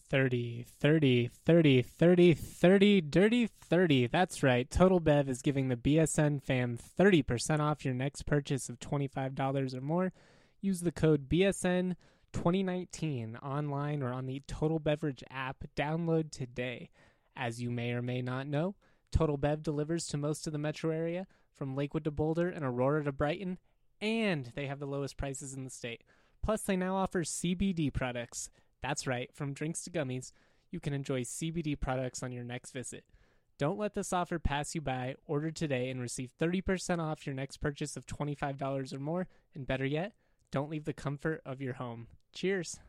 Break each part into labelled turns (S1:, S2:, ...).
S1: 30, 30, 30, 30, 30, dirty 30. That's right. Total Bev is giving the BSN fam 30% off your next purchase of $25 or more. Use the code BSN2019 online or on the Total Beverage app. Download today. As you may or may not know, Total Bev delivers to most of the metro area, from Lakewood to Boulder and Aurora to Brighton, and they have the lowest prices in the state. Plus, they now offer CBD products. That's right, from drinks to gummies, you can enjoy CBD products on your next visit. Don't let this offer pass you by. Order today and receive 30% off your next purchase of $25 or more. And better yet, don't leave the comfort of your home. Cheers.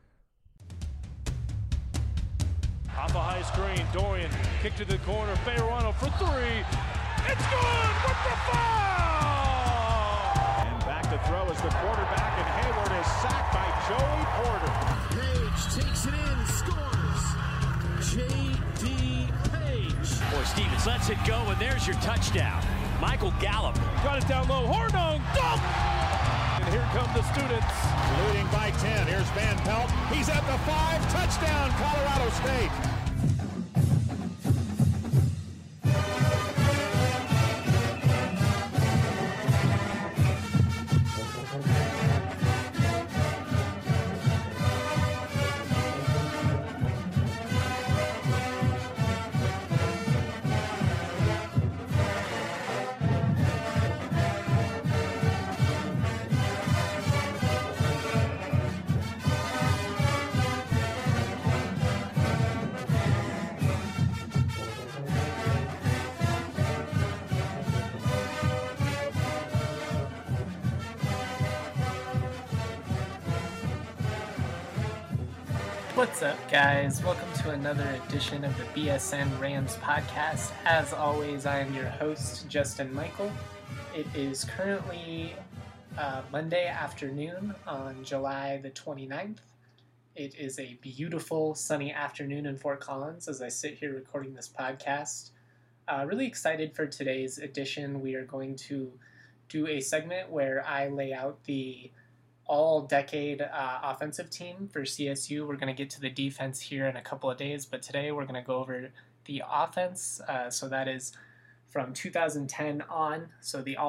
S2: Off a high screen, Dorian kick to the corner, Fayerano for three. It's good with the foul! And back to throw as the quarterback, and Hayward is sacked by Joey Porter.
S3: Page takes it in, scores. J.D. Page.
S4: Boy, Stevens lets it go, and there's your touchdown. Michael Gallup.
S2: Got it down low, Hornung, dunk! And here come the students.
S5: Leading by 10, here's Van Pelt. He's at the 5, touchdown, Colorado State.
S1: What's up, guys? Welcome to another edition of the BSN Rams podcast. As always, I am your host, Justin Michael. It is currently Monday afternoon on July the 29th. It is a beautiful sunny afternoon in Fort Collins as I sit here recording this podcast. Really excited for today's edition. We are going to do a segment where I lay out the all-decade offensive team for CSU. We're going to get to the defense here in a couple of days, but today we're going to go over the offense. So that is from 2010 on. So the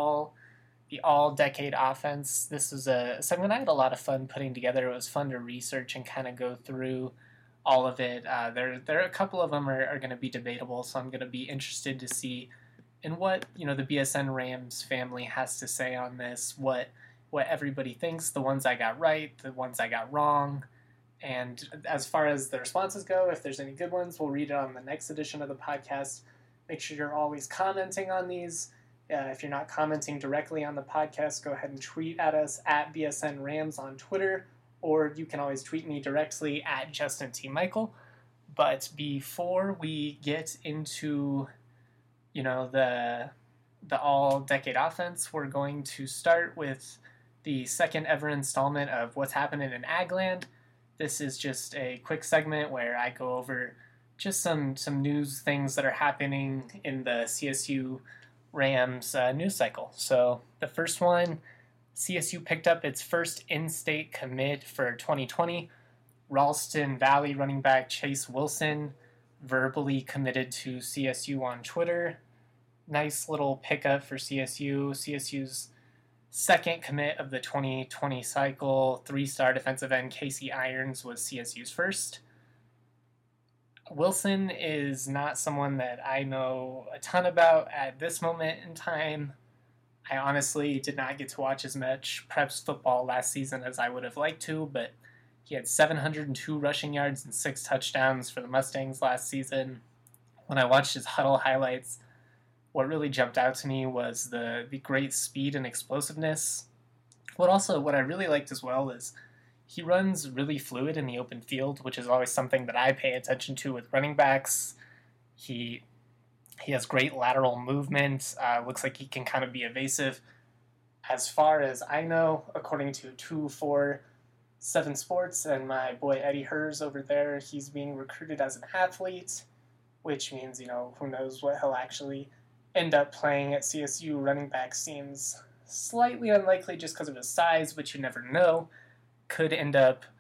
S1: all-decade offense. This is a segment I had a lot of fun putting together. It was fun to research and kind of go through all of it. There are a couple of them are going to be debatable, so I'm going to be interested to see in what the BSN Rams family has to say on this. What everybody thinks, the ones I got right, the ones I got wrong. And as far as the responses go, if there's any good ones, we'll read it on the next edition of the podcast. Make sure you're always commenting on these. If you're not commenting directly on the podcast, go ahead and tweet at us at BSN Rams on Twitter, or you can always tweet me directly at Justin T. Michael. But before we get into, the all-decade offense, we're going to start with the second ever installment of What's Happening in Agland. This is just a quick segment where I go over just some news things that are happening in the CSU Rams news cycle. So the first one, CSU picked up its first in-state commit for 2020. Ralston Valley running back Chase Wilson verbally committed to CSU on Twitter. Nice little pickup for CSU. CSU's second commit of the 2020 cycle, 3-star defensive end Casey Irons was CSU's first. Wilson is not someone that I know a ton about at this moment in time. I honestly did not get to watch as much Preps football last season as I would have liked to, but he had 702 rushing yards and 6 touchdowns for the Mustangs last season. When I watched his huddle highlights, what really jumped out to me was the great speed and explosiveness. What I really liked as well is he runs really fluid in the open field, which is always something that I pay attention to with running backs. He has great lateral movement. Looks like he can kind of be evasive. As far as I know, according to 247 Sports and my boy Eddie Hers over there, he's being recruited as an athlete, which means, who knows what he'll actually end up playing at CSU. Running back seems slightly unlikely just because of his size, but you never know. Could end up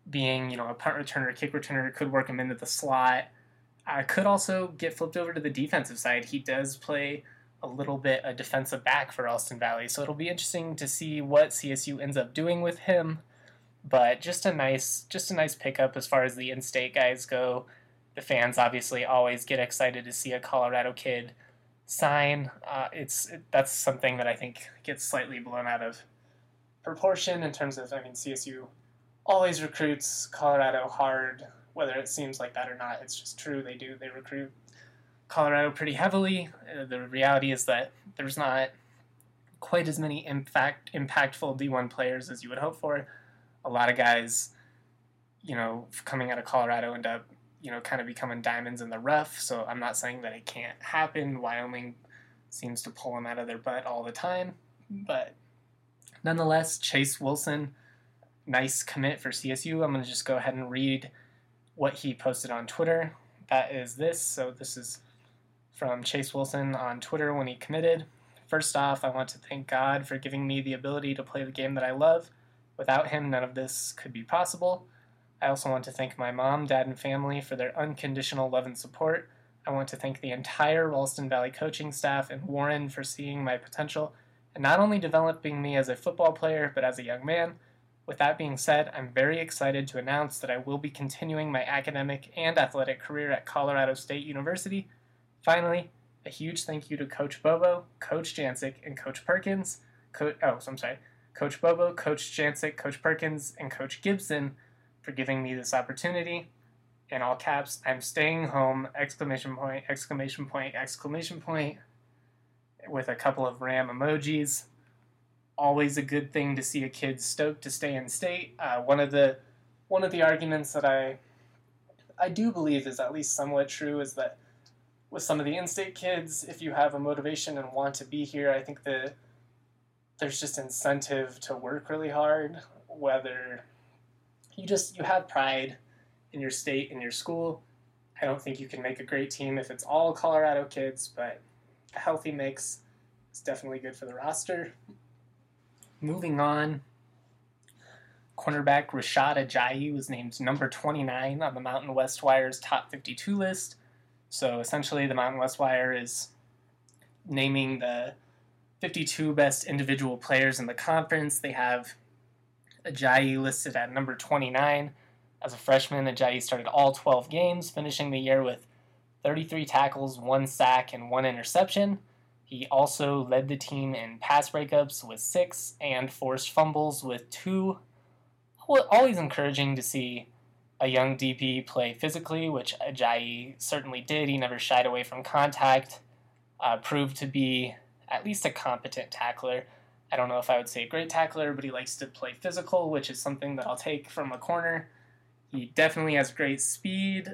S1: being, a punt returner, kick returner, could work him into the slot. Could also get flipped over to the defensive side. He does play a little bit a defensive back for Ralston Valley, so it'll be interesting to see what CSU ends up doing with him. But just a nice pickup as far as the in-state guys go. The fans obviously always get excited to see a Colorado kid sign. That's something that I think gets slightly blown out of proportion in terms of, CSU always recruits Colorado hard, whether it seems like that or not. It's just true. They recruit Colorado pretty heavily. The reality is that there's not quite as many impactful D1 players as you would hope for. A lot of guys, coming out of Colorado end up, kind of becoming diamonds in the rough. So I'm not saying that it can't happen. Wyoming seems to pull them out of their butt all the time. But nonetheless, Chase Wilson, nice commit for CSU. I'm going to just go ahead and read what he posted on Twitter. That is this. So this is from Chase Wilson on Twitter when he committed. First off, I want to thank God for giving me the ability to play the game that I love. Without him, none of this could be possible. I also want to thank my mom, dad, and family for their unconditional love and support. I want to thank the entire Ralston Valley coaching staff and Warren for seeing my potential and not only developing me as a football player, but as a young man. With that being said, I'm very excited to announce that I will be continuing my academic and athletic career at Colorado State University. Finally, a huge thank you to Coach Bobo, Coach Jancic, and Coach Perkins. Coach Bobo, Coach Jancic, Coach Perkins, and Coach Gibson for giving me this opportunity. In all caps, I'm staying home, ! With a couple of Ram emojis. Always a good thing to see a kid stoked to stay in state. One of the arguments that I do believe is at least somewhat true is that with some of the in-state kids, if you have a motivation and want to be here, I think that there's just incentive to work really hard, whether you have pride in your state, in your school. I don't think you can make a great team if it's all Colorado kids, but a healthy mix is definitely good for the roster. Moving on, cornerback Rashad Ajayi was named number 29 on the Mountain West Wire's top 52 list. So essentially the Mountain West Wire is naming the 52 best individual players in the conference. They have Ajayi listed at number 29. As a freshman, Ajayi started all 12 games, finishing the year with 33 tackles, 1 sack, and 1 interception. He also led the team in pass breakups with 6 and forced fumbles with 2. Always encouraging to see a young DB play physically, which Ajayi certainly did. He never shied away from contact, proved to be at least a competent tackler. I don't know if I would say a great tackler, but he likes to play physical, which is something that I'll take from a corner. He definitely has great speed.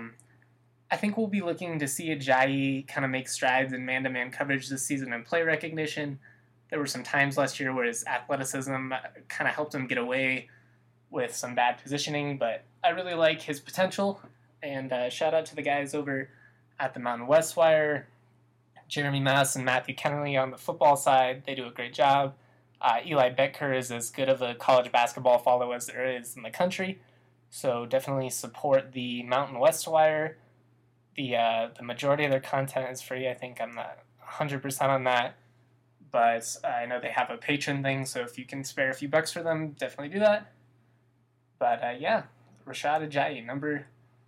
S1: I think we'll be looking to see Ajayi kind of make strides in man-to-man coverage this season and play recognition. There were some times last year where his athleticism kind of helped him get away with some bad positioning, but I really like his potential. And shout out to the guys over at the Mountain West Wire, Jeremy Mass and Matthew Kennelly on the football side. They do a great job. Eli Becker is as good of a college basketball follow as there is in the country, so definitely support the Mountain West Wire. The majority of their content is free. I think I'm not 100% on that, but I know they have a patron thing, so if you can spare a few bucks for them, definitely do that. But Rashad Ajayi, number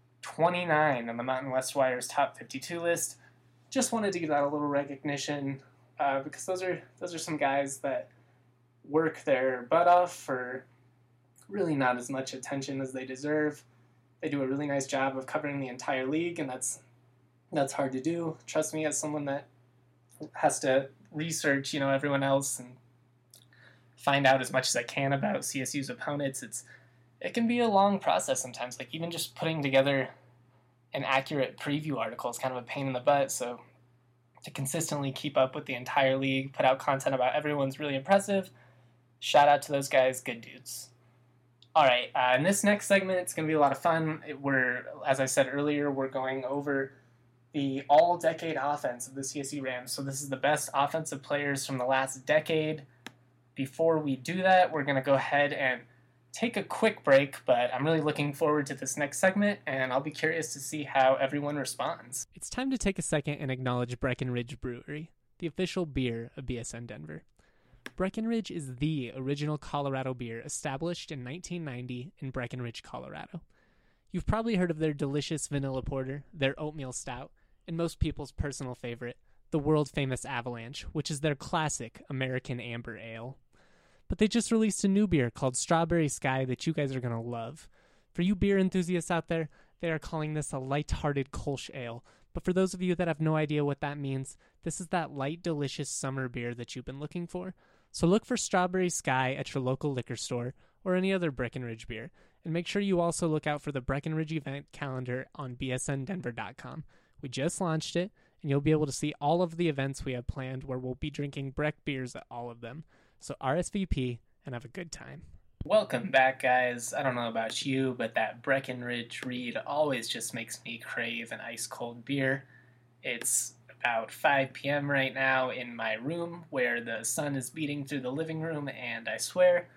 S1: 29 on the Mountain West Wire's top 52 list. Just wanted to give that a little recognition because those are some guys that work their butt off for really not as much attention as they deserve. They do a really nice job of covering the entire league, and that's hard to do. Trust me, as someone that has to research, everyone else and find out as much as I can about CSU's opponents, it can be a long process sometimes. Like even just putting together an accurate preview article is kind of a pain in the butt. So to consistently keep up with the entire league, put out content about everyone's really impressive. Shout out to those guys, good dudes. All right, in this next segment, it's going to be a lot of fun. As I said earlier, we're going over the all-decade offense of the CSU Rams. So this is the best offensive players from the last decade. Before we do that, we're going to go ahead and take a quick break, but I'm really looking forward to this next segment, and I'll be curious to see how everyone responds. It's time to take a second and acknowledge Breckenridge Brewery, the official beer of BSN Denver. Breckenridge is the original Colorado beer established in 1990 in Breckenridge, Colorado. You've probably heard of their delicious vanilla porter, their oatmeal stout, and most people's personal favorite, the world-famous Avalanche, which is their classic American Amber Ale. But they just released a new beer called Strawberry Sky that you guys are going to love. For you beer enthusiasts out there, they are calling this a light-hearted Kolsch ale. But for those of you that have no idea what that means, this is that light, delicious summer beer that you've been looking for. So look for Strawberry Sky at your local liquor store or any other Breckenridge beer. And make sure you also look out for the Breckenridge event calendar on bsndenver.com. We just launched it, and you'll be able to see all of the events we have planned where we'll be drinking Breck beers at all of them. So RSVP and have a good time. Welcome back, guys. I don't know about you, but that Breckenridge read always just makes me crave an ice-cold beer. It's about 5 p.m. right now in my room where the sun is beating through the living room, and I swear,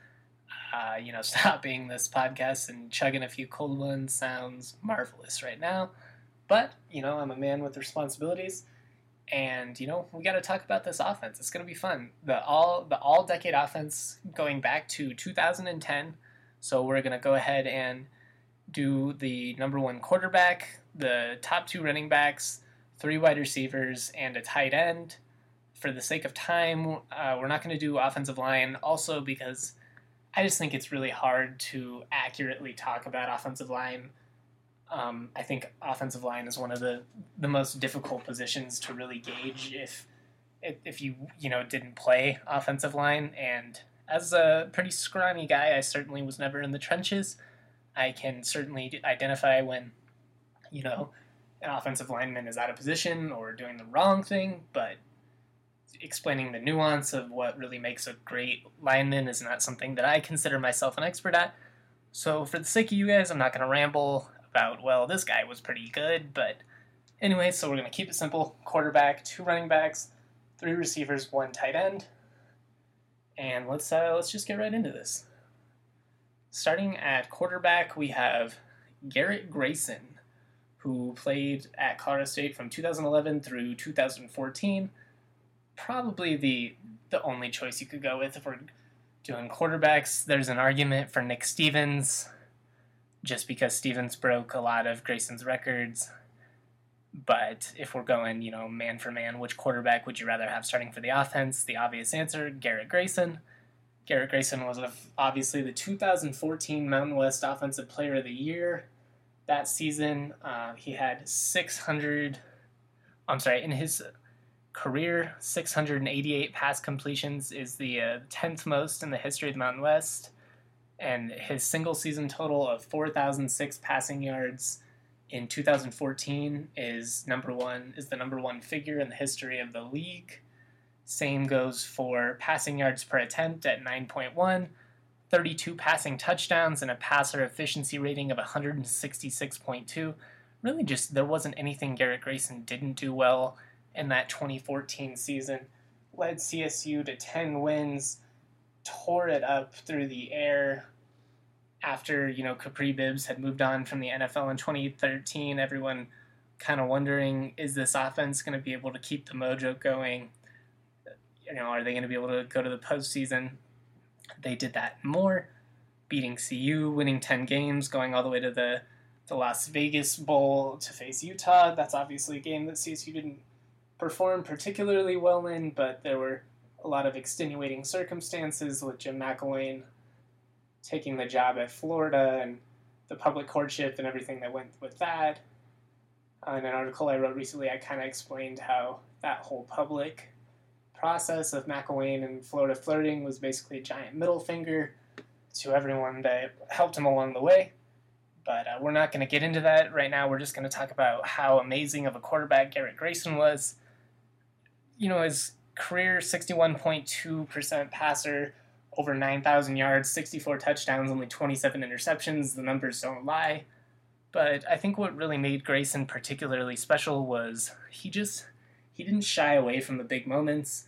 S1: stopping this podcast and chugging a few cold ones sounds marvelous right now. But, I'm a man with responsibilities, and, we got to talk about this offense. It's going to be fun. The all-decade offense going back to 2010, so we're going to go ahead and do the number one quarterback, the top two running backs, 3 wide receivers, and a tight end. For the sake of time, we're not going to do offensive line, also because I just think it's really hard to accurately talk about offensive line. I think offensive line is one of the most difficult positions to really gauge if you didn't play offensive line. And as a pretty scrawny guy, I certainly was never in the trenches. I can certainly identify when, an offensive lineman is out of position or doing the wrong thing, but explaining the nuance of what really makes a great lineman is not something that I consider myself an expert at. So for the sake of you guys, I'm not going to ramble about, well, this guy was pretty good, but anyway, so we're going to keep it simple. Quarterback, 2 running backs, 3 receivers, 1 tight end. And let's just get right into this. Starting at quarterback, we have Garrett Grayson, who played at Colorado State from 2011 through 2014. Probably the only choice you could go with if we're doing quarterbacks. There's an argument for Nick Stevens, just because Stevens broke a lot of Grayson's records. But if we're going, man for man, which quarterback would you rather have starting for the offense? The obvious answer, Garrett Grayson. Garrett Grayson was obviously the 2014 Mountain West Offensive Player of the Year. That season, he had in his career, 688 pass completions is the 10th most in the history of the Mountain West. And his single season total of 4,006 passing yards in 2014 is the number one figure in the history of the league. Same goes for passing yards per attempt at 9.1, 32 passing touchdowns, and a passer efficiency rating of 166.2. Really just, there wasn't anything Garrett Grayson didn't do well in that 2014 season. Led CSU to 10 wins, tore it up through the air. After, Capri Bibbs had moved on from the NFL in 2013, everyone kind of wondering, is this offense going to be able to keep the mojo going? Are they going to be able to go to the postseason? They did that more, beating CU, winning 10 games, going all the way to the Las Vegas Bowl to face Utah. That's obviously a game that CSU didn't perform particularly well in, but there were a lot of extenuating circumstances with Jim McElwain taking the job at Florida and the public courtship and everything that went with that. In an article I wrote recently, I kind of explained how that whole public process of McElwain and Florida flirting was basically a giant middle finger to everyone that helped him along the way. But we're not going to get into that right now. We're just going to talk about how amazing of a quarterback Garrett Grayson was. His career 61.2% passer, over 9,000 yards, 64 touchdowns, only 27 interceptions. The numbers don't lie. But I think what really made Grayson particularly special was he didn't shy away from the big moments.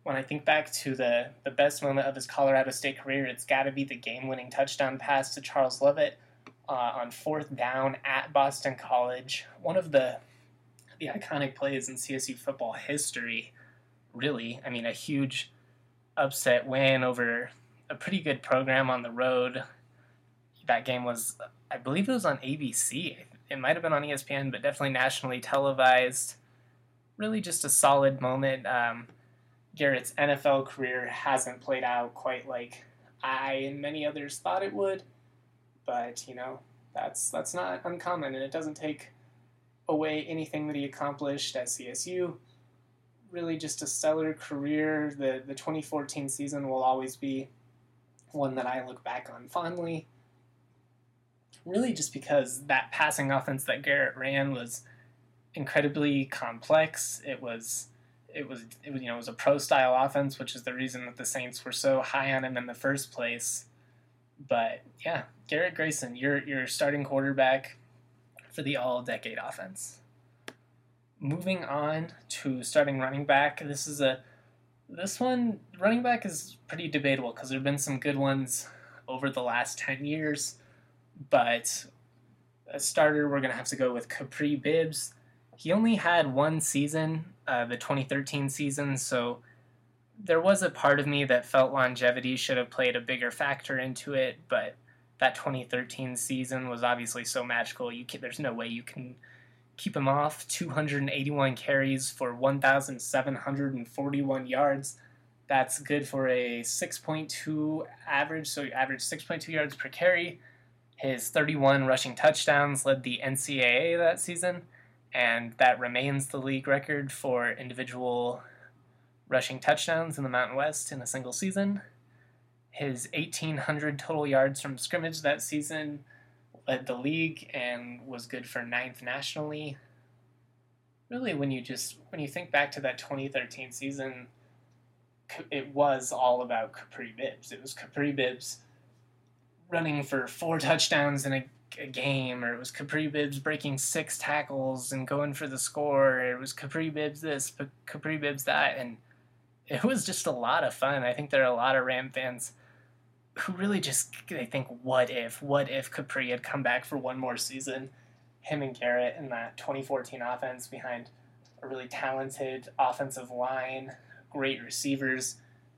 S1: when I think back to the best moment of his Colorado State career, it's got to be the game-winning touchdown pass to Charles Lovett on 4th down at Boston College. One of the iconic plays in CSU football history, really. I mean, a huge upset win over a pretty good program on the road. That game was, I believe it was on ABC. It might have been on ESPN, but definitely nationally televised. Really just a solid moment. Garrett's NFL career hasn't played out quite like I and many others thought it would, but that's not uncommon, and it doesn't take away anything that he accomplished at CSU. Really just a stellar career. The 2014 season will always be one that I look back on fondly. Really just because that passing offense that Garrett ran was incredibly complex. It was a pro-style offense, which is the reason that the Saints were so high on him in the first place. But yeah, Garrett Grayson, your starting quarterback for the all-decade offense. Moving on to starting running back, running back is pretty debatable because there have been some good ones over the last 10 years, but a starter, we're going to have to go with Kapri Bibbs. He only had one season, the 2013 season, so there was a part of me that felt longevity should have played a bigger factor into it, but that 2013 season was obviously so magical. There's no way you can keep him off. 281 carries for 1,741 yards. That's good for a 6.2 average, so you average 6.2 yards per carry. His 31 rushing touchdowns led the NCAA that season, and that remains the league record for individual rushing touchdowns in the Mountain West in a single season. His 1,800 total yards from scrimmage that season led the league and was good for 9th nationally. Really, when you think back to that 2013 season, it was all about Kapri Bibbs. It was Kapri Bibbs running for 4 touchdowns in a game, or it was Kapri Bibbs breaking 6 tackles and going for the score. It was Kapri Bibbs this, Kapri Bibbs that, and it was just a lot of fun. I think there are a lot of Ram fans who really they think, what if Kapri had come back for one more season? Him and Garrett in that 2014 offense behind a really talented offensive line, great receivers.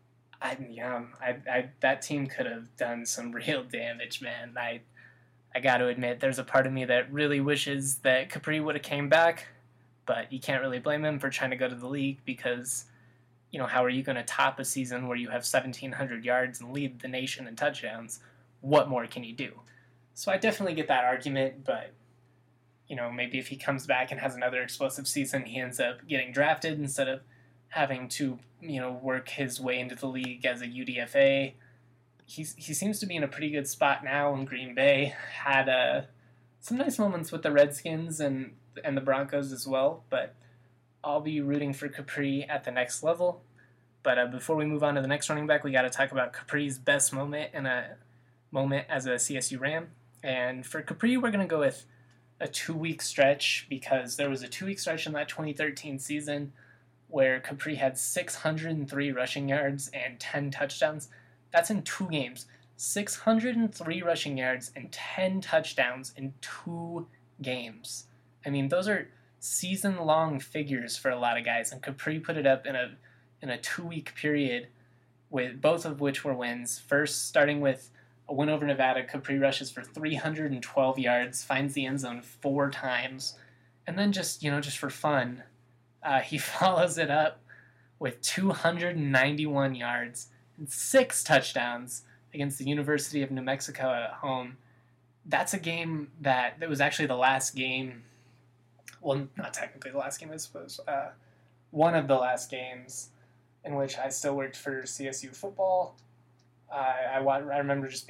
S1: That team could have done some real damage, man. I got to admit, there's a part of me that really wishes that Kapri would have came back, but you can't really blame him for trying to go to the league because, how are you going to top a season where you have 1,700 yards and lead the nation in touchdowns? What more can you do? So I definitely get that argument, but, maybe if he comes back and has another explosive season, he ends up getting drafted instead of having to, work his way into the league as a UDFA. He seems to be in a pretty good spot now in Green Bay. Had some nice moments with the Redskins and the Broncos as well, but I'll be rooting for Kapri at the next level. But before we move on to the next running back, we got to talk about Kapri's best moment and a moment as a CSU Ram. And for Kapri, we're going to go with a 2-week stretch because there was a 2-week stretch in that 2013 season where Kapri had 603 rushing yards and 10 touchdowns. That's in 2 games. 603 rushing yards and 10 touchdowns in 2 games. I mean, those are season-long figures for a lot of guys, and Kapri put it up in a 2-week period, with both of which were wins. First, starting with a win over Nevada, Kapri rushes for 312 yards, finds the end zone 4 times, and then just for fun, he follows it up with 291 yards and 6 touchdowns against the University of New Mexico at home. That's a game that was actually the last game. Well, not technically the last game, I suppose. One of the last games in which I still worked for CSU football. I remember just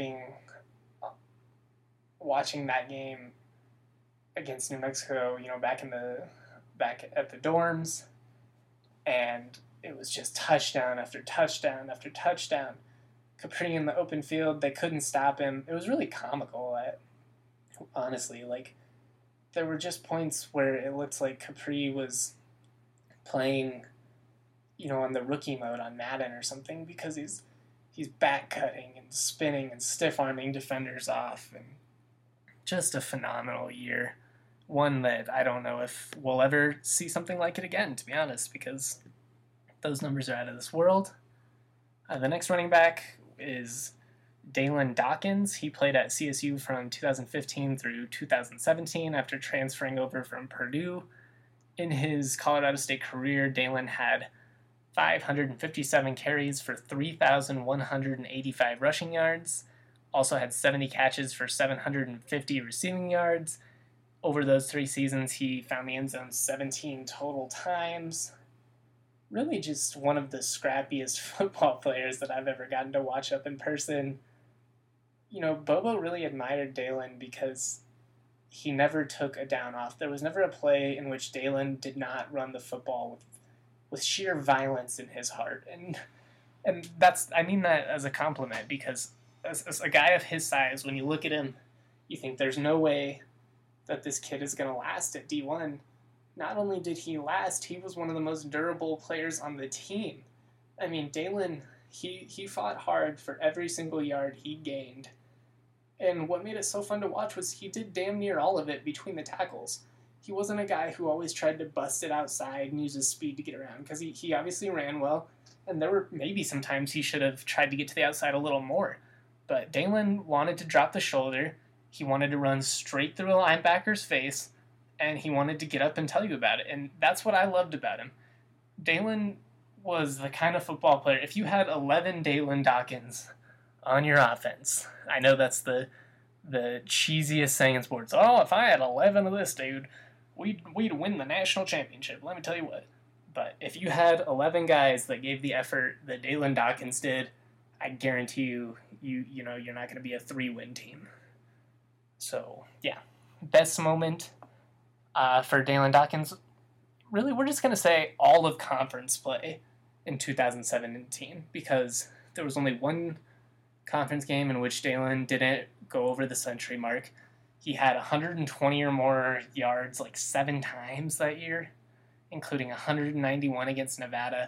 S1: watching that game against New Mexico, back at the dorms, and it was just touchdown after touchdown after touchdown. Kapri in the open field, they couldn't stop him. It was really comical, honestly. There were just points where it looked like Kapri was playing on the rookie mode on Madden or something, because he's back cutting and spinning and stiff arming defenders off, and just a phenomenal year. One that I don't know if we'll ever see something like it again, to be honest, because those numbers are out of this world. The next running back is Dalen Dawkins. He played at CSU from 2015 through 2017 after transferring over from Purdue. In his Colorado State career, Dalen had 557 carries for 3,185 rushing yards, also had 70 catches for 750 receiving yards. Over those 3 seasons, he found the end zone 17 total times. Really just one of the scrappiest football players that I've ever gotten to watch up in person. Bobo really admired Dalen because he never took a down off. There was never a play in which Dalen did not run the football with sheer violence in his heart. And I mean that as a compliment, because as a guy of his size, when you look at him, you think there's no way that this kid is going to last at D1. Not only did he last, he was one of the most durable players on the team. I mean, Dalen, he fought hard for every single yard he gained. And what made it so fun to watch was he did damn near all of it between the tackles. He wasn't a guy who always tried to bust it outside and use his speed to get around, because he obviously ran well, and there were maybe some times he should have tried to get to the outside a little more. But Dalen wanted to drop the shoulder, he wanted to run straight through a linebacker's face, and he wanted to get up and tell you about it, and that's what I loved about him. Dalen was the kind of football player, if you had 11 Dalen Dawkins on your offense, I know that's the cheesiest saying in sports. Oh, if I had 11 of this dude, we'd win the national championship. Let me tell you what. But if you had 11 guys that gave the effort that Dalen Dawkins did, I guarantee you're not going to be a 3-win team. So, yeah. Best moment for Dalen Dawkins, really, we're just going to say all of conference play in 2017, because there was only one conference game in which Dalen didn't go over the century mark. He had 120 or more yards 7 times that year, including 191 against Nevada,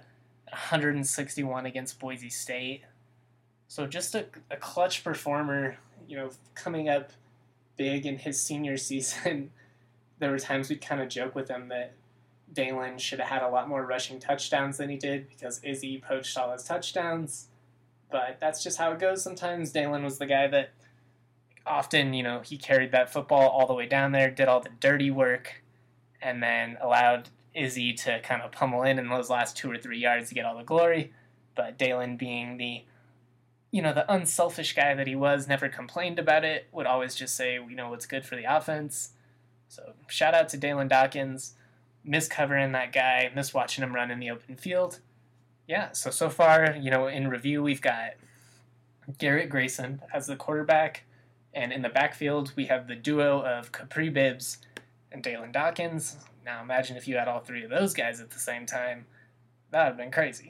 S1: 161 against Boise State. So just a clutch performer, coming up big in his senior season. There were times we'd kind of joke with him that Dalen should have had a lot more rushing touchdowns than he did, because Izzy poached all his touchdowns. But that's just how it goes sometimes. Dalen was the guy that often, he carried that football all the way down there, did all the dirty work, and then allowed Izzy to kind of pummel in those last 2 or 3 yards to get all the glory. But Dalen, being the unselfish guy that he was, never complained about it, would always just say, what's good for the offense. So shout out to Dalen Dawkins. Miss covering that guy, miss watching him run in the open field. Yeah, so far, in review, we've got Garrett Grayson as the quarterback, and in the backfield, we have the duo of Kapri Bibbs and Dalen Dawkins. Now, imagine if you had all 3 of those guys at the same time. That would have been crazy.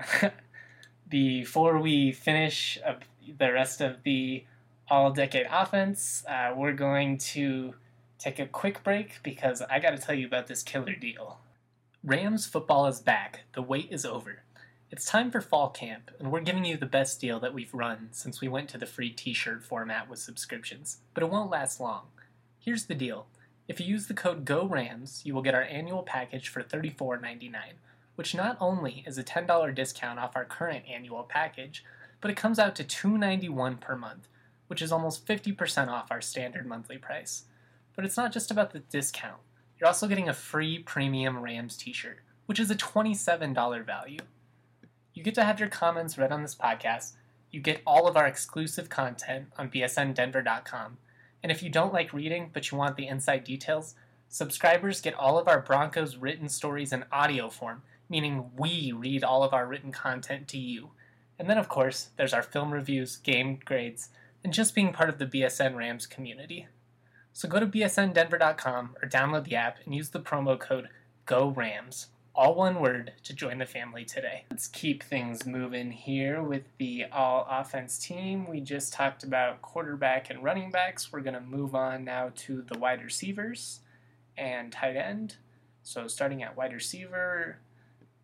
S1: Before we finish up the rest of the all-decade offense, we're going to take a quick break, because I got to tell you about this killer deal. Rams football is back. The wait is over. It's time for fall camp, and we're giving you the best deal that we've run since we went to the free t-shirt format with subscriptions, but it won't last long. Here's the deal. If you use the code GORAMS, you will get our annual package for $34.99, which not only is a $10 discount off our current annual package, but it comes out to $2.91 per month, which is almost 50% off our standard monthly price. But it's not just about the discount. You're also getting a free premium Rams t-shirt, which is a $27 value. You get to have your comments read on this podcast. You get all of our exclusive content on bsndenver.com. And if you don't like reading, but you want the inside details, subscribers get all of our Broncos written stories in audio form, meaning we read all of our written content to you. And then, of course, there's our film reviews, game grades, and just being part of the BSN Rams community. So go to bsndenver.com or download the app and use the promo code GORAMS, all one word, to join the family today. Let's keep things moving here with the all-offense team. We just talked about quarterback and running backs. We're going to move on now to the wide receivers and tight end. So starting at wide receiver,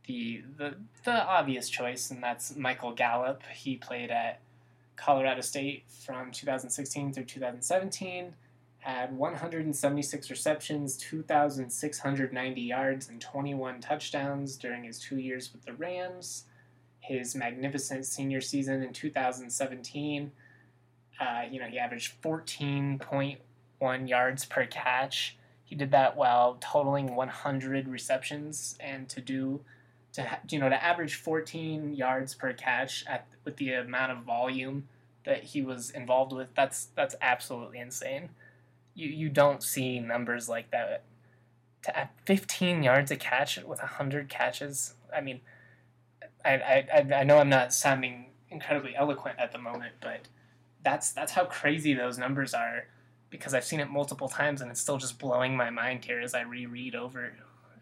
S1: the obvious choice, and that's Michael Gallup. He played at Colorado State from 2016 through 2017, had 176 receptions, 2,690 yards, and 21 touchdowns during his 2 years with the Rams. His magnificent senior season in 2017, he averaged 14.1 yards per catch. He did that while totaling 100 receptions, and to average 14 yards per catch with the amount of volume that he was involved with, that's absolutely insane. You don't see numbers like that. To add 15 yards a catch with 100 catches, I mean, I know I'm not sounding incredibly eloquent at the moment, but that's how crazy those numbers are, because I've seen it multiple times and it's still just blowing my mind here as I reread over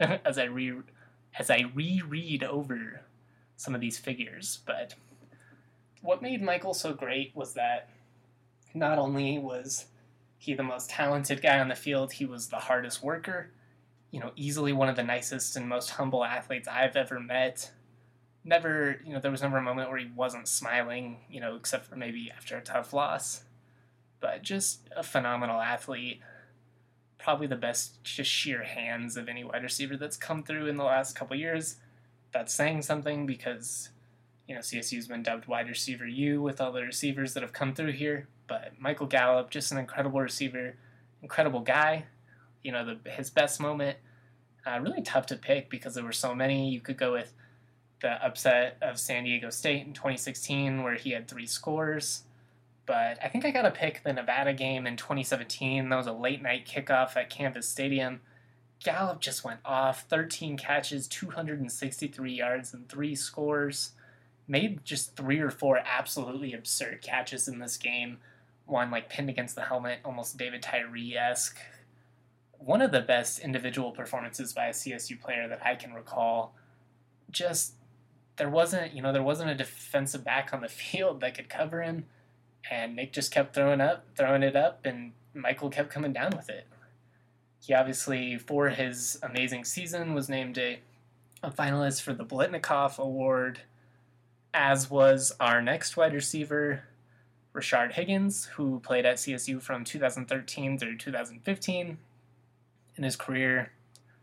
S1: some of these figures. But what made Michael so great was that not only was he the most talented guy on the field, he was the hardest worker, easily one of the nicest and most humble athletes I've ever met. There was never a moment where he wasn't smiling, except for maybe after a tough loss. But just a phenomenal athlete. Probably the best just sheer hands of any wide receiver that's come through in the last couple years. That's saying something, because, CSU's been dubbed wide receiver U with all the receivers that have come through here. But Michael Gallup, just an incredible receiver, incredible guy. His best moment, really tough to pick because there were so many. You could go with the upset of San Diego State in 2016 where he had 3 scores. But I think I got to pick the Nevada game in 2017. That was a late-night kickoff at Canvas Stadium. Gallup just went off. 13 catches, 263 yards, and 3 scores. Made just 3 or 4 absolutely absurd catches in this game. One, pinned against the helmet, almost David Tyree-esque. One of the best individual performances by a CSU player that I can recall. Just, there wasn't a defensive back on the field that could cover him. And Nick just kept throwing it up, and Michael kept coming down with it. He obviously, for his amazing season, was named a finalist for the Biletnikoff Award, as was our next wide receiver, Rashard Higgins, who played at CSU from 2013 through 2015. In his career,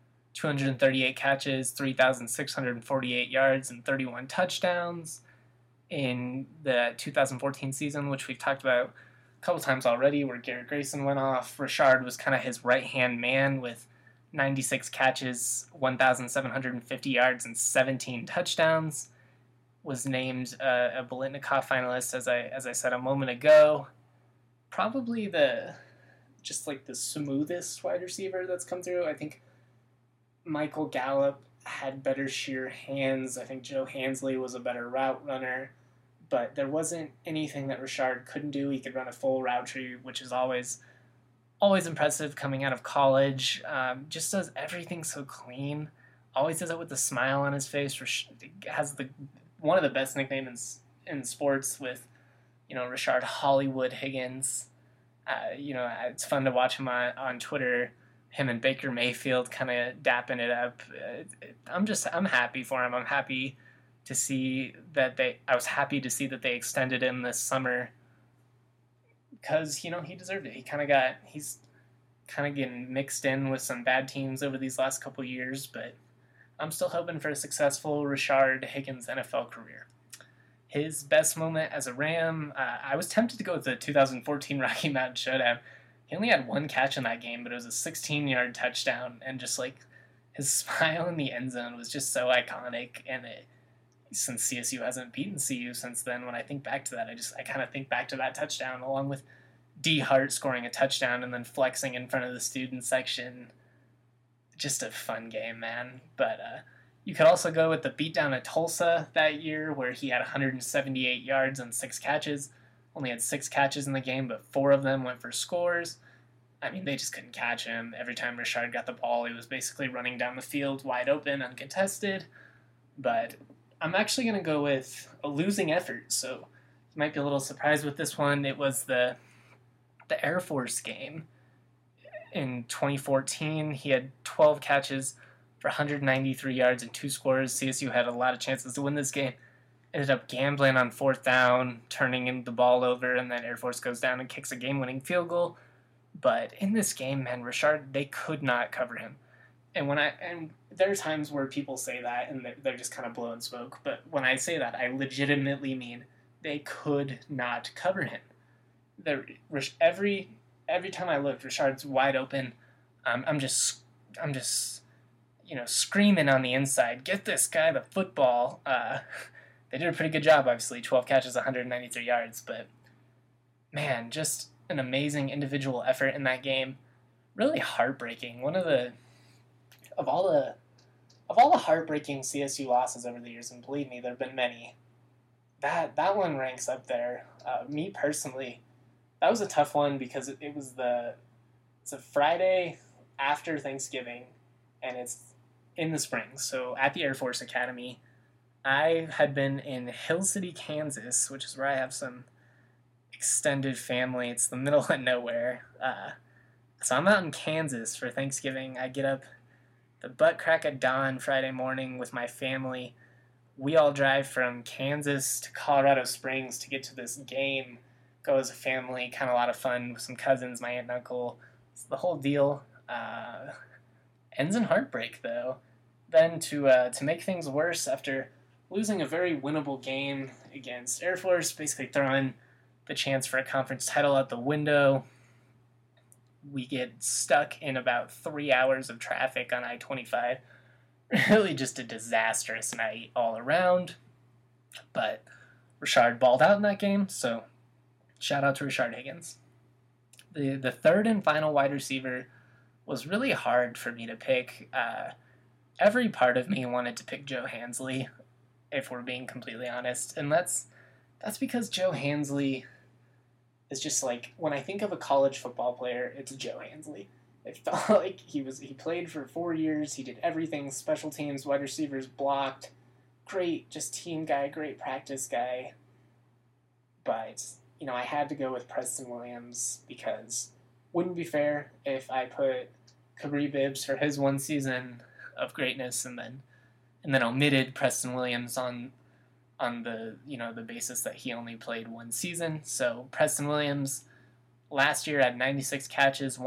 S1: 238 catches, 3,648 yards, and 31 touchdowns. In the 2014 season, which we've talked about a couple times already, where Garrett Grayson went off, Rashard was kind of his right-hand man with 96 catches, 1,750 yards, and 17 touchdowns. Was named a Biletnikoff finalist, as I said a moment ago. Probably the smoothest wide receiver that's come through. I think Michael Gallup had better sheer hands. I think Joe Hansley was a better route runner, but there wasn't anything that Rashard couldn't do. He could run a full route tree, which is always impressive coming out of college. Just does everything so clean. Always does it with a smile on his face. Has one of the best nicknames in sports with, Rashard Hollywood Higgins. It's fun to watch him on Twitter. Him and Baker Mayfield kind of dapping it up. I'm happy for him. I'm happy to see that I was happy to see that they extended him this summer, because, he deserved it. He's kind of getting mixed in with some bad teams over these last couple years, but I'm still hoping for a successful Rashard Higgins NFL career. His best moment as a Ram, I was tempted to go with the 2014 Rocky Mountain Showdown. He only had 1 catch in that game, but it was a 16-yard touchdown, and just his smile in the end zone was just so iconic. And since CSU hasn't beaten CU since then, when I think back to that, I kind of think back to that touchdown, along with D. Hart scoring a touchdown and then flexing in front of the student section. Just a fun game, man. But you could also go with the beatdown at Tulsa that year, where he had 178 yards and 6 catches. Only had 6 catches in the game, but 4 of them went for scores. I mean, they just couldn't catch him. Every time Rashard got the ball, he was basically running down the field wide open, uncontested. But I'm actually going to go with a losing effort, so you might be a little surprised with this one. It was the Air Force game in 2014. He had 12 catches for for 193 yards and 2 scores. CSU had a lot of chances to win this game. Ended up gambling on 4th down, turning the ball over, and then Air Force goes down and kicks a game-winning field goal. But in this game, man, Richard, they could not cover him. And there are times where people say that and they're just kind of blowing smoke. But when I say that, I legitimately mean they could not cover him. Every time I looked, Richard's wide open. I'm just screaming on the inside, get this guy the football. They did a pretty good job, obviously, 12 catches, 193 yards. But man, just an amazing individual effort in that game. Really heartbreaking. Of all the heartbreaking CSU losses over the years, and believe me, there have been many, that one ranks up there. Me personally, that was a tough one because it's a Friday after Thanksgiving, and it's in the spring. So at the Air Force Academy, I had been in Hill City, Kansas, which is where I have some extended family. It's the middle of nowhere. So I'm out in Kansas for Thanksgiving. I get up the butt crack of dawn Friday morning with my family. We all drive from Kansas to Colorado Springs to get to this game. Go as a family, kind of a lot of fun with some cousins, my aunt and uncle. It's the whole deal. Ends in heartbreak, though. Then to make things worse, after losing a very winnable game against Air Force, basically throwing the chance for a conference title out the window, we get stuck in about 3 hours of traffic on I-25. Really just a disastrous night all around. But Richard balled out in that game, so shout out to Richard Higgins. The third and final wide receiver was really hard for me to pick. Every part of me wanted to pick Joe Hansley, if we're being completely honest. And that's because Joe Hansley is just like, when I think of a college football player, it's Joe Hansley. It felt like he played for 4 years. He did everything, special teams, wide receivers, blocked. Great, just team guy, great practice guy. But, I had to go with Preston Williams because wouldn't be fair if I put Kabri Bibbs for his one season of greatness and then omitted Preston Williams on the basis that he only played one season. So Preston Williams last year had 96 catches,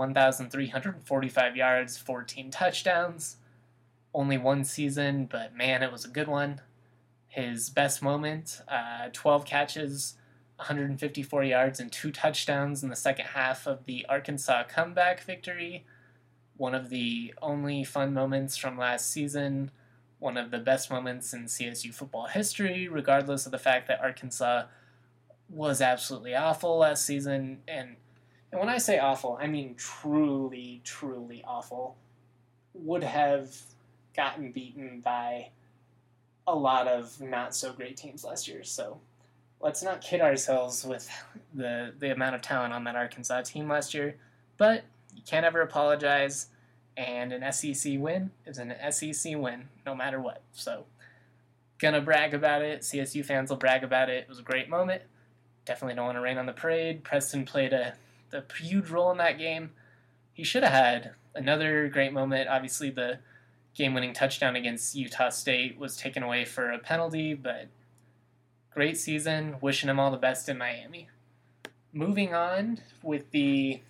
S1: 1,345 yards, 14 touchdowns. Only one season, but man, it was a good one. His best moment, 12 catches, 154 yards, and 2 touchdowns in the second half of the Arkansas comeback victory. One of the only fun moments from last season. One of the best moments in CSU football history, regardless of the fact that Arkansas was absolutely awful last season. And when I say awful, I mean truly, truly awful. Would have gotten beaten by a lot of not-so-great teams last year. So let's not kid ourselves with the amount of talent on that Arkansas team last year. But you can't ever apologize. And an SEC win is an SEC win, no matter what. So, gonna brag about it. CSU fans will brag about it. It was a great moment. Definitely don't want to rain on the parade. Preston played a huge role in that game. He should have had another great moment. Obviously, the game-winning touchdown against Utah State was taken away for a penalty, but great season. Wishing him all the best in Miami. Moving on with the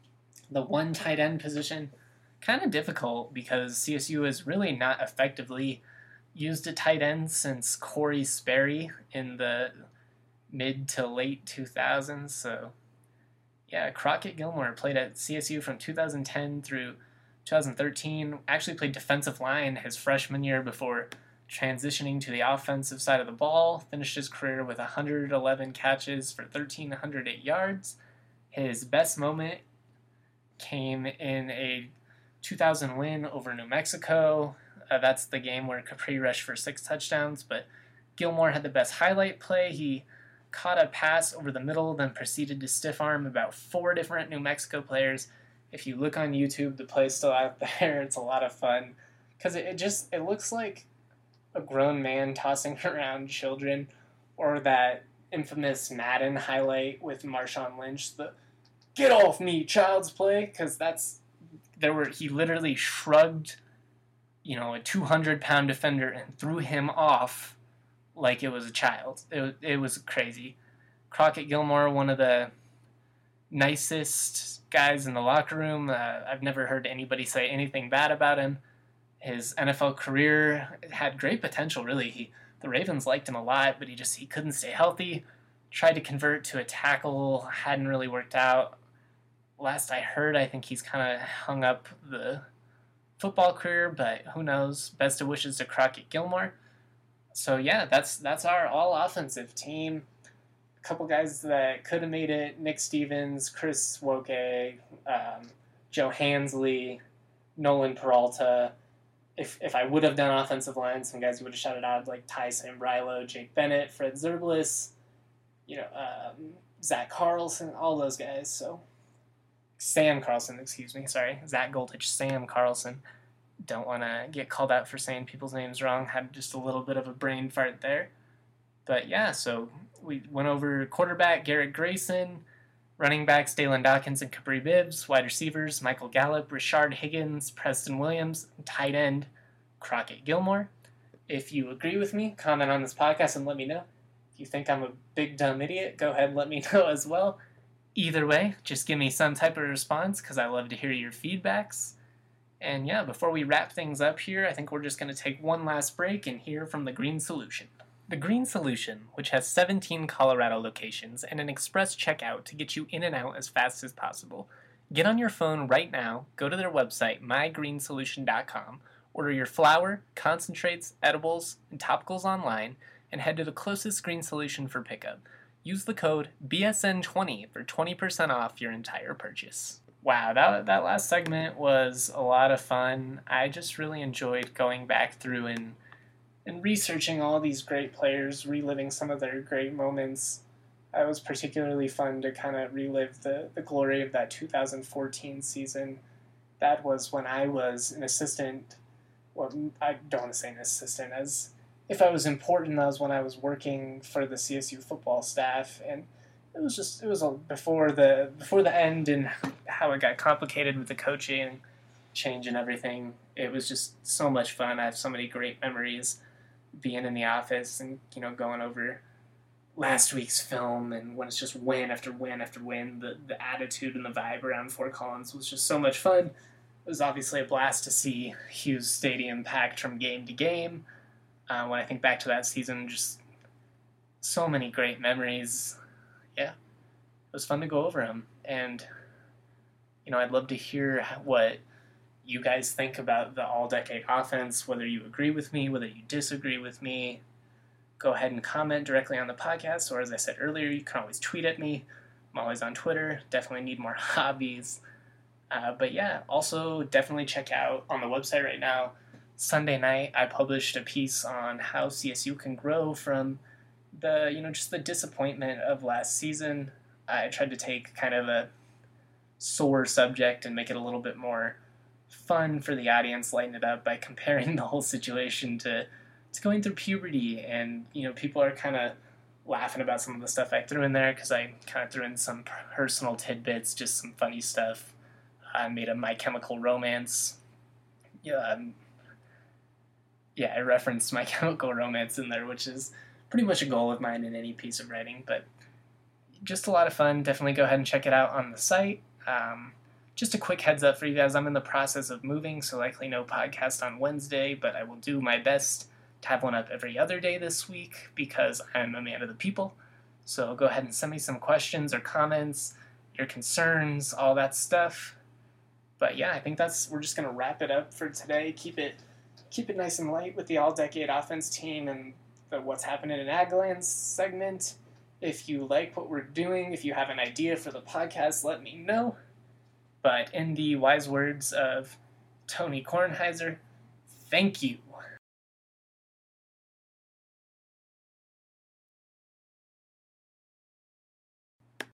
S1: one tight end position. Kind of difficult because CSU has really not effectively used a tight end since Corey Sperry in the mid to late 2000s. So, yeah, Crockett Gilmore played at CSU from 2010 through 2013. Actually played defensive line his freshman year before transitioning to the offensive side of the ball. Finished his career with 111 catches for 1,308 yards. His best moment came in a 2000 win over New Mexico. That's the game where Capri rushed for 6 touchdowns, but Gilmore had the best highlight play. He caught a pass over the middle, then proceeded to stiff arm about 4 different New Mexico players. If you look on YouTube, the play's still out there. It's a lot of fun because it looks like a grown man tossing around children, or that infamous Madden highlight with Marshawn Lynch, the "get off me, child's play," because he literally shrugged a 200-pound defender and threw him off like it was a child. It was crazy. Crockett Gilmore, one of the nicest guys in the locker room. I've never heard anybody say anything bad about him. His NFL career had great potential, really. The Ravens liked him a lot, but he couldn't stay healthy. Tried to convert to a tackle, hadn't really worked out. Last I heard, I think he's kind of hung up the football career, but who knows? Best of wishes to Crockett Gilmore. So yeah, that's our all offensive team. A couple guys that could have made it: Nick Stevens, Chris Woke, Joe Hansley, Nolan Peralta. If I would have done offensive line, some guys would have shouted out like Ty Sambrilo, Jake Bennett, Fred Zerblis, Zach Carlson, all those guys. So Sam Carlson, excuse me, sorry, Zach Goldich, Sam Carlson. Don't want to get called out for saying people's names wrong. Had just a little bit of a brain fart there. But yeah, so we went over quarterback Garrett Grayson, running backs Dalen Dawkins and Capri Bibbs, wide receivers Michael Gallup, Rashard Higgins, Preston Williams, and tight end Crockett Gilmore. If you agree with me, comment on this podcast and let me know. If you think I'm a big dumb idiot, go ahead and let me know as well. Either way, just give me some type of response because I love to hear your feedbacks. And yeah, before we wrap things up here, I think we're just going to take one last break and hear from the Green Solution. The Green Solution, which has 17 Colorado locations and an express checkout to get you in and out as fast as possible. Get on your phone right now, go to their website, mygreensolution.com, order your flour, concentrates, edibles, and topicals online, and head to the closest Green Solution for pickup. Use the code BSN20 for 20% off your entire purchase. Wow, that last segment was a lot of fun. I just really enjoyed going back through and researching all these great players, reliving some of their great moments. It was particularly fun to kind of relive the glory of that 2014 season. That was when I was an assistant. Well, I don't want to say an assistant, as if I was important, that was when I was working for the CSU football staff, and it was before the end and how it got complicated with the coaching change and everything. It was just so much fun. I have so many great memories being in the office and going over last week's film, and when it's just win after win after win, the attitude and the vibe around Fort Collins was just so much fun. It was obviously a blast to see Hughes Stadium packed from game to game. When I think back to that season, just so many great memories. Yeah, it was fun to go over them, and I'd love to hear what you guys think about the all-decade offense, whether you agree with me, whether you disagree with me. Go ahead and comment directly on the podcast, or as I said earlier, you can always tweet at me. I'm always on Twitter. Definitely need more hobbies. But yeah, also definitely check out on the website right now. Sunday night, I published a piece on how CSU can grow from the, just the disappointment of last season. I tried to take kind of a sore subject and make it a little bit more fun for the audience, lighten it up by comparing the whole situation to going through puberty. And, people are kind of laughing about some of the stuff I threw in there because I kind of threw in some personal tidbits, just some funny stuff. I made a My Chemical Romance. I referenced My Chemical Romance in there, which is pretty much a goal of mine in any piece of writing, but just a lot of fun. Definitely go ahead and check it out on the site. Just a quick heads up for you guys, I'm in the process of moving, so likely no podcast on Wednesday, but I will do my best to have one up every other day this week because I'm a man of the people. So go ahead and send me some questions or comments, your concerns, all that stuff. But yeah, I think we're just going to wrap it up for today. Keep it nice and light with the all-decade offense team and the What's Happening in Aglands segment. If you like what we're doing, if you have an idea for the podcast, let me know. But in the wise words of Tony Kornheiser, thank you.